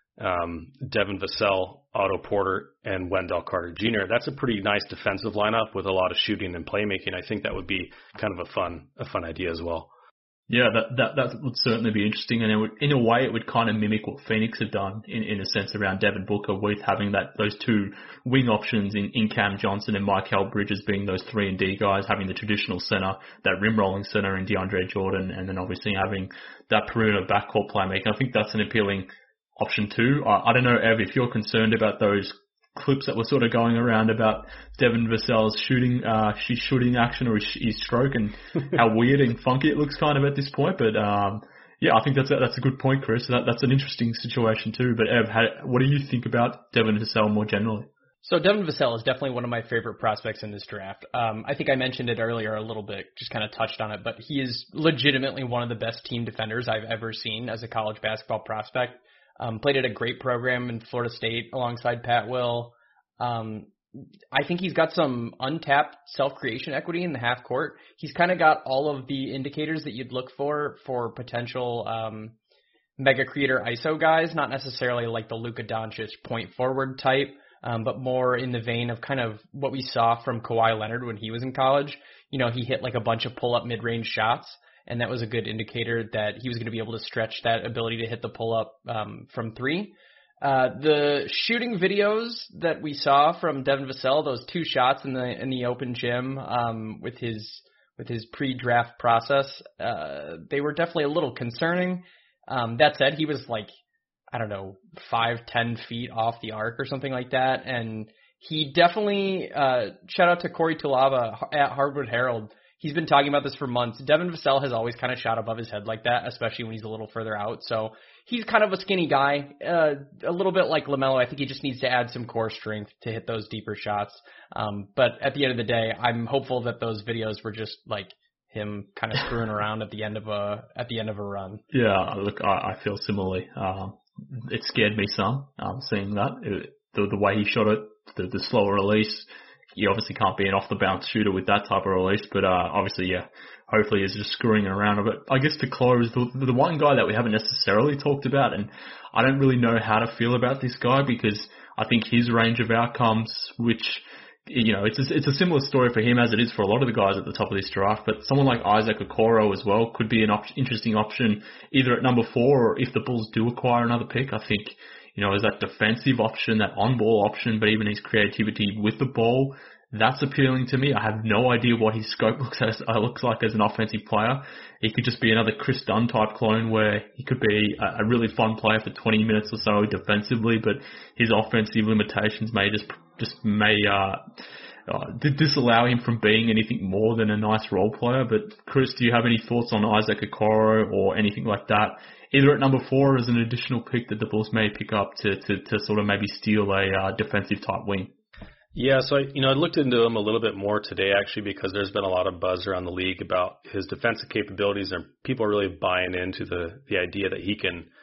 um, Devin Vassell, Otto Porter, and Wendell Carter Junior That's a pretty nice defensive lineup with a lot of shooting and playmaking. I think that would be kind of a fun, a fun idea as well. Yeah, that, that that would certainly be interesting, and it would, in a way, it would kind of mimic what Phoenix had done in, in a sense around Devin Booker, with having that those two wing options in, in Cam Johnson and Michael Bridges being those three and D guys, having the traditional center, that rim rolling center in DeAndre Jordan, and then obviously having that perimeter backcourt playmaking. I think that's an appealing option too. I, I don't know, Ev, if you're concerned about those clips that were sort of going around about Devin Vassell's shooting, uh, she's shooting action or his, his stroke, and how weird and funky it looks kind of at this point. But um, yeah, I think that's a, that's a good point, Chris. That, that's an interesting situation too. But Ev, how, what do you think about Devin Vassell more generally? So Devin Vassell is definitely one of my favorite prospects in this draft. Um, I think I mentioned it earlier a little bit, just kind of touched on it, but he is legitimately one of the best team defenders I've ever seen as a college basketball prospect. Um, played at a great program in Florida State alongside Pat Will. Um, I think he's got some untapped self-creation equity in the half court. He's kind of got all of the indicators that you'd look for for potential um, mega creator I S O guys, not necessarily like the Luka Doncic point forward type, um, but more in the vein of kind of what we saw from Kawhi Leonard when he was in college. You know, he hit like a bunch of pull-up mid-range shots, and that was a good indicator that he was going to be able to stretch that ability to hit the pull-up um, from three. Uh, the shooting videos that we saw from Devin Vassell, those two shots in the in the open gym um, with his with his pre-draft process, uh, they were definitely a little concerning. Um, that said, he was like, I don't know, five, ten feet off the arc or something like that, and he definitely uh, shout out to Corey Tulava at Hardwood Herald. He's been talking about this for months. Devin Vassell has always kind of shot above his head like that, especially when he's a little further out. So he's kind of a skinny guy, uh, a little bit like LaMelo. I think he just needs to add some core strength to hit those deeper shots. Um, but at the end of the day, I'm hopeful that those videos were just like him kind of screwing around at the end of a at the end of a run. Yeah, look, I, I feel similarly. Um, it scared me some um, seeing that it, the the way he shot it, the, the slower release. You obviously can't be an off-the-bounce shooter with that type of release, but uh, obviously, yeah, hopefully he's just screwing around. But I guess to close, the, the one guy that we haven't necessarily talked about, and I don't really know how to feel about this guy because I think his range of outcomes, which, you know, it's a, it's a similar story for him as it is for a lot of the guys at the top of this draft, but someone like Isaac Okoro as well could be an op- interesting option either at number four or if the Bulls do acquire another pick. I think, you know, as that defensive option, that on-ball option, but even his creativity with the ball, that's appealing to me. I have no idea what his scope looks as uh, looks like as an offensive player. He could just be another Chris Dunn type clone where he could be a, a really fun player for twenty minutes or so defensively, but his offensive limitations may just just may uh, uh, disallow him from being anything more than a nice role player. But Chris, do you have any thoughts on Isaac Okoro or anything like that? Either at number four as an additional pick that the Bulls may pick up to, to, to sort of maybe steal a uh, defensive type wing. Yeah, so I, you know, I looked into him a little bit more today actually because there's been a lot of buzz around the league about his defensive capabilities and people are really buying into the, the idea that he can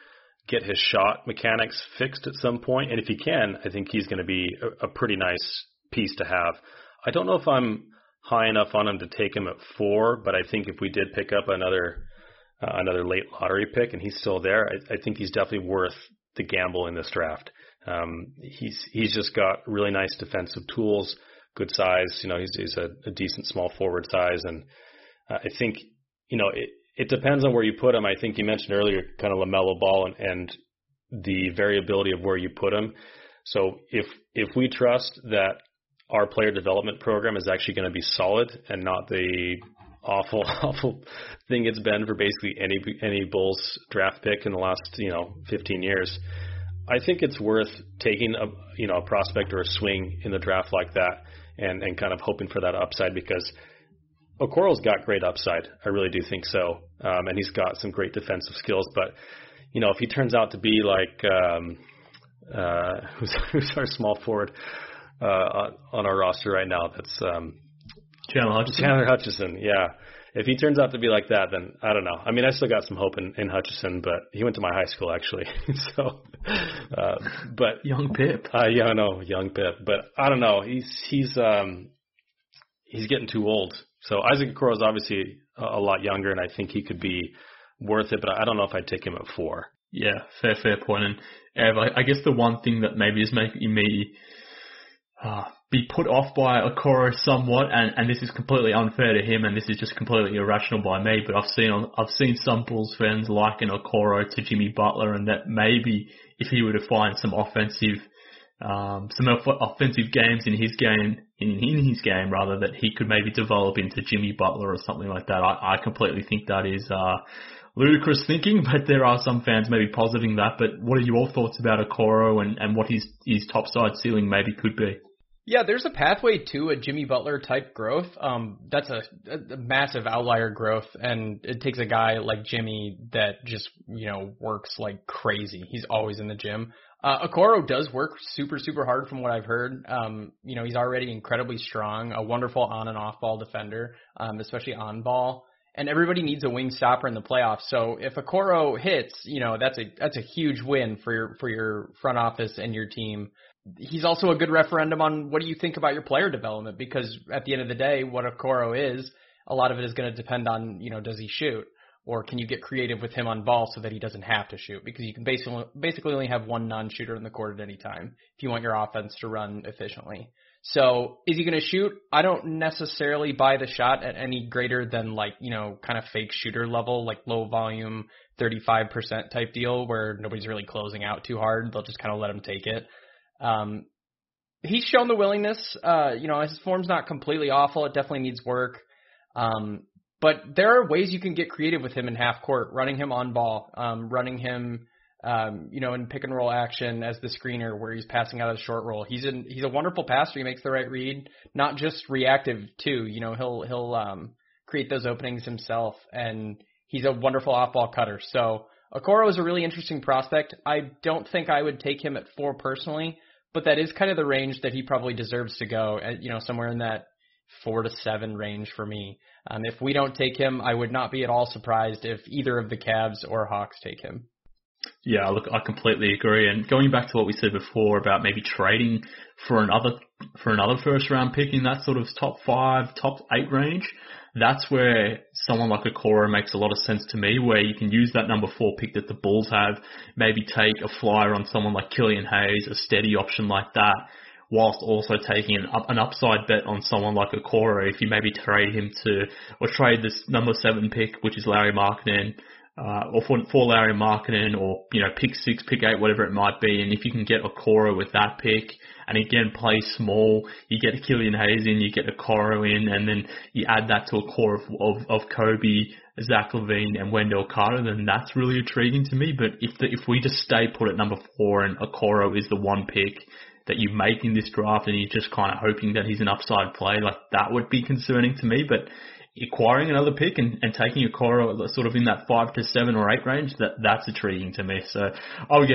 get his shot mechanics fixed at some point. And if he can, I think he's going to be a, a pretty nice piece to have. I don't know if I'm high enough on him to take him at four, but I think if we did pick up another uh, another late lottery pick and he's still there, I, I think he's definitely worth the gamble in this draft. Um, he's he's just got really nice defensive tools, good size. You know, he's he's a, a decent small forward size, and uh, I think you know it. It depends on where you put him. I think you mentioned earlier kind of LaMelo Ball and, and the variability of where you put him. So if if we trust that our player development program is actually going to be solid and not the awful awful thing it's been for basically any any Bulls draft pick in the last you know fifteen years, I think it's worth taking a you know a prospect or a swing in the draft like that and and kind of hoping for that upside, because Okoro's got great upside. I really do think so. Um, and he's got some great defensive skills. But, you know, if he turns out to be like, um, uh, who's, who's our small forward uh, on, on our roster right now? That's um, Chandler Hutchison. Chandler Hutchison, yeah. If he turns out to be like that, then I don't know. I mean, I still got some hope in, in Hutchison, but he went to my high school, actually. so, uh, but young Pip. Uh, yeah, I know, young Pip. But I don't know. He's, he's, um, he's getting too old. So Isaac Okoro is obviously a, a lot younger, and I think he could be worth it, but I don't know if I'd take him at four. Yeah, fair, fair point. And Ev, I, I guess the one thing that maybe is making me uh, be put off by Okoro somewhat, and, and this is completely unfair to him, and this is just completely irrational by me, but I've seen I've seen some Bulls fans liken Okoro to Jimmy Butler, and that maybe if he were to find some offensive Um, some offensive games in his game, in, in his game rather, that he could maybe develop into Jimmy Butler or something like that. I, I completely think that is uh, ludicrous thinking, but there are some fans maybe positing that. But what are your thoughts about Okoro and, and what his, his topside ceiling maybe could be? Yeah, there's a pathway to a Jimmy Butler type growth. Um, that's a, a massive outlier growth, and it takes a guy like Jimmy that just, you know, works like crazy. He's always in the gym. Uh, Okoro does work super, super hard from what I've heard. Um, you know, he's already incredibly strong, a wonderful on and off ball defender, um, especially on ball. And everybody needs a wing stopper in the playoffs. So if Okoro hits, you know, that's a, that's a huge win for your, for your front office and your team. He's also a good referendum on what do you think about your player development, because at the end of the day, what Okoro is, a lot of it is going to depend on, you know, does he shoot? Or can you get creative with him on ball so that he doesn't have to shoot? Because you can basically basically only have one non-shooter in the court at any time if you want your offense to run efficiently. So is he going to shoot? I don't necessarily buy the shot at any greater than like, you know, kind of fake shooter level, like low volume, thirty-five percent type deal where nobody's really closing out too hard. They'll just kind of let him take it. Um, he's shown the willingness. Uh, you know, his form's not completely awful. It definitely needs work. Um, But there are ways you can get creative with him in half court, running him on ball, um, running him, um, you know, in pick and roll action as the screener where he's passing out of the short roll. He's in, he's a wonderful passer. He makes the right read, not just reactive too. You know, he'll, he'll, um, create those openings himself, and he's a wonderful off ball cutter. So Okoro is a really interesting prospect. I don't think I would take him at four personally, but that is kind of the range that he probably deserves to go at, you know, somewhere in that four to seven range for me. Um, if we don't take him, I would not be at all surprised if either of the Cavs or Hawks take him. Yeah, look, I completely agree. And going back to what we said before about maybe trading for another for another first round pick in that sort of top five, top eight range, that's where someone like Okoro makes a lot of sense to me, where you can use that number four pick that the Bulls have, maybe take a flyer on someone like Killian Hayes, a steady option like that, whilst also taking an, up, an upside bet on someone like Okoro if you maybe trade him to, or trade this number seven pick, which is Larry Markkinen, uh, or for, for Larry Markkinen, or, you know, pick six, pick eight, whatever it might be. And if you can get Okoro with that pick, and again, play small, you get Killian Hayes in, you get Okoro in, and then you add that to a core of, of, of Kobe, Zach LaVine, and Wendell Carter, then that's really intriguing to me. But if the, if we just stay put at number four and Okoro is the one pick that you make in this draft and you're just kind of hoping that he's an upside play, like that would be concerning to me. But acquiring another pick and, and taking Okoro sort of in that five to seven or eight range, that that's intriguing to me. So, oh, again,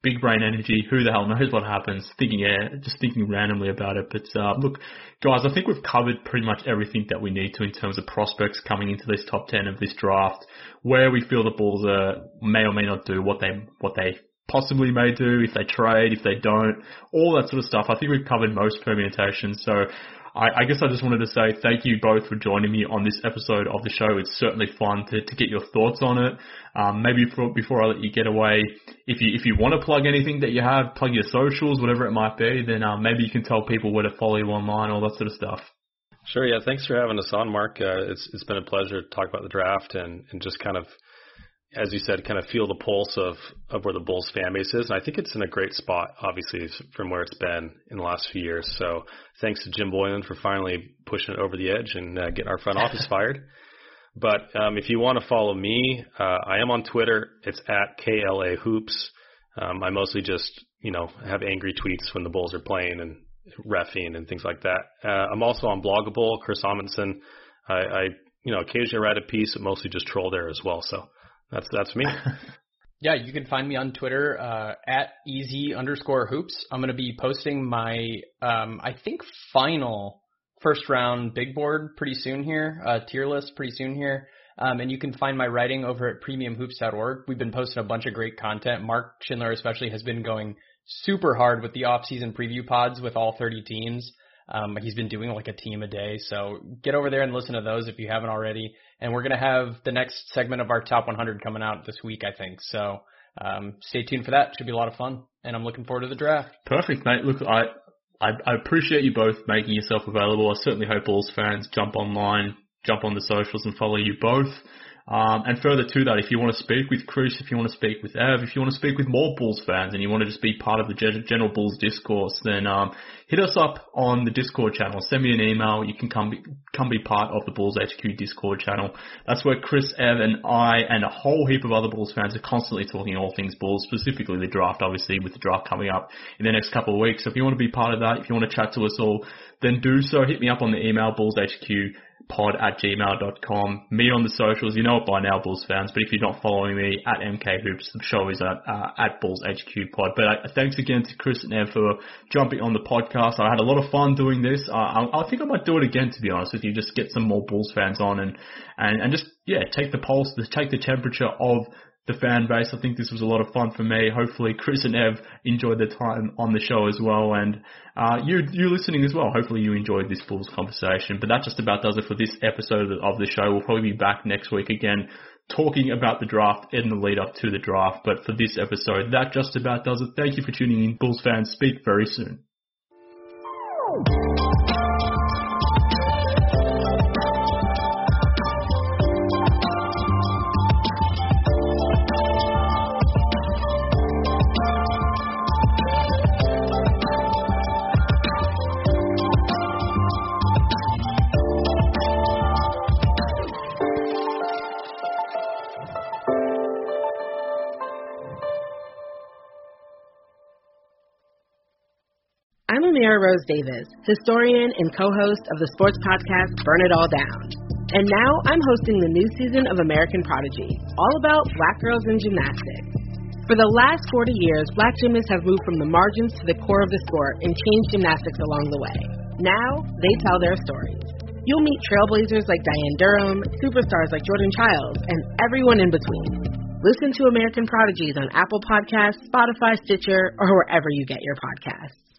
big brain energy. Who the hell knows what happens? Thinking, yeah, just thinking randomly about it. But uh, look, guys, I think we've covered pretty much everything that we need to in terms of prospects coming into this top ten of this draft, where we feel the Bulls are, may or may not do, what they what they possibly may do, if they trade, if they don't, all that sort of stuff. I think we've covered most permutations. So I, I guess I just wanted to say thank you both for joining me on this episode of the show. It's certainly fun to, to get your thoughts on it. Um, maybe for, before I let you get away, if you if you want to plug anything that you have, plug your socials, whatever it might be, then um, maybe you can tell people where to follow you online, all that sort of stuff. Sure, yeah. Thanks for having us on, Mark. Uh, it's it's been a pleasure to talk about the draft and, and just kind of, as you said, kind of feel the pulse of, of where the Bulls fan base is. And I think it's in a great spot, obviously, from where it's been in the last few years. So thanks to Jim Boylan for finally pushing it over the edge and uh, getting our front office fired. But um, if you want to follow me, uh, I am on Twitter. It's at K L A Hoops. Um, I mostly just, you know, have angry tweets when the Bulls are playing and reffing and things like that. Uh, I'm also on Bloggable, Chris Amundsen. I, I, you know, occasionally write a piece, but mostly just troll there as well. So That's that's me. Yeah, you can find me on Twitter uh, at easy underscore hoops. I'm going to be posting my, um, I think, final first round big board pretty soon here, uh, tier list pretty soon here. Um, and you can find my writing over at premium hoops dot org. We've been posting a bunch of great content. Mark Schindler especially has been going super hard with the off-season preview pods with all thirty teams. Um, he's been doing like a team a day. So get over there and listen to those if you haven't already. And we're going to have the next segment of our top one hundred coming out this week, I think. So um, stay tuned for that. Should be a lot of fun. And I'm looking forward to the draft. Perfect, mate. Look, I, I, I appreciate you both making yourself available. I certainly hope Bulls fans jump online, jump on the socials and follow you both. Um, and further to that, if you want to speak with Chris, if you want to speak with Ev, if you want to speak with more Bulls fans and you want to just be part of the general Bulls discourse, then um, hit us up on the Discord channel. Send me an email. You can come be, come be part of the Bulls H Q Discord channel. That's where Chris, Ev, and I and a whole heap of other Bulls fans are constantly talking all things Bulls, specifically the draft, obviously, with the draft coming up in the next couple of weeks. So if you want to be part of that, if you want to chat to us all, then do so. Hit me up on the email, bullshq pod at gmail dot com. Me on the socials, you know it by now, Bulls fans, but if you're not following me, at M K Hoops, the show is at, uh, at Bulls H Q Pod. But uh, thanks again to Chris and Ev for jumping on the podcast. I had a lot of fun doing this. Uh, I, I think I might do it again, to be honest with you, just get some more Bulls fans on and, and, and just, yeah, take the pulse, take the temperature of the fan base. I think this was a lot of fun for me. Hopefully Chris and Ev enjoyed their time on the show as well, and uh, you you listening as well. Hopefully you enjoyed this Bulls conversation. But that just about does it for this episode of the show. We'll probably be back next week again talking about the draft in the lead up to the draft. But for this episode, that just about does it. Thank you for tuning in. Bulls fans, speak very soon. I'm Amira Rose Davis, historian and co-host of the sports podcast Burn It All Down. And now I'm hosting the new season of American Prodigy, all about Black girls in gymnastics. For the last forty years, Black gymnasts have moved from the margins to the core of the sport and changed gymnastics along the way. Now, they tell their stories. You'll meet trailblazers like Diane Durham, superstars like Jordan Childs, and everyone in between. Listen to American Prodigies on Apple Podcasts, Spotify, Stitcher, or wherever you get your podcasts.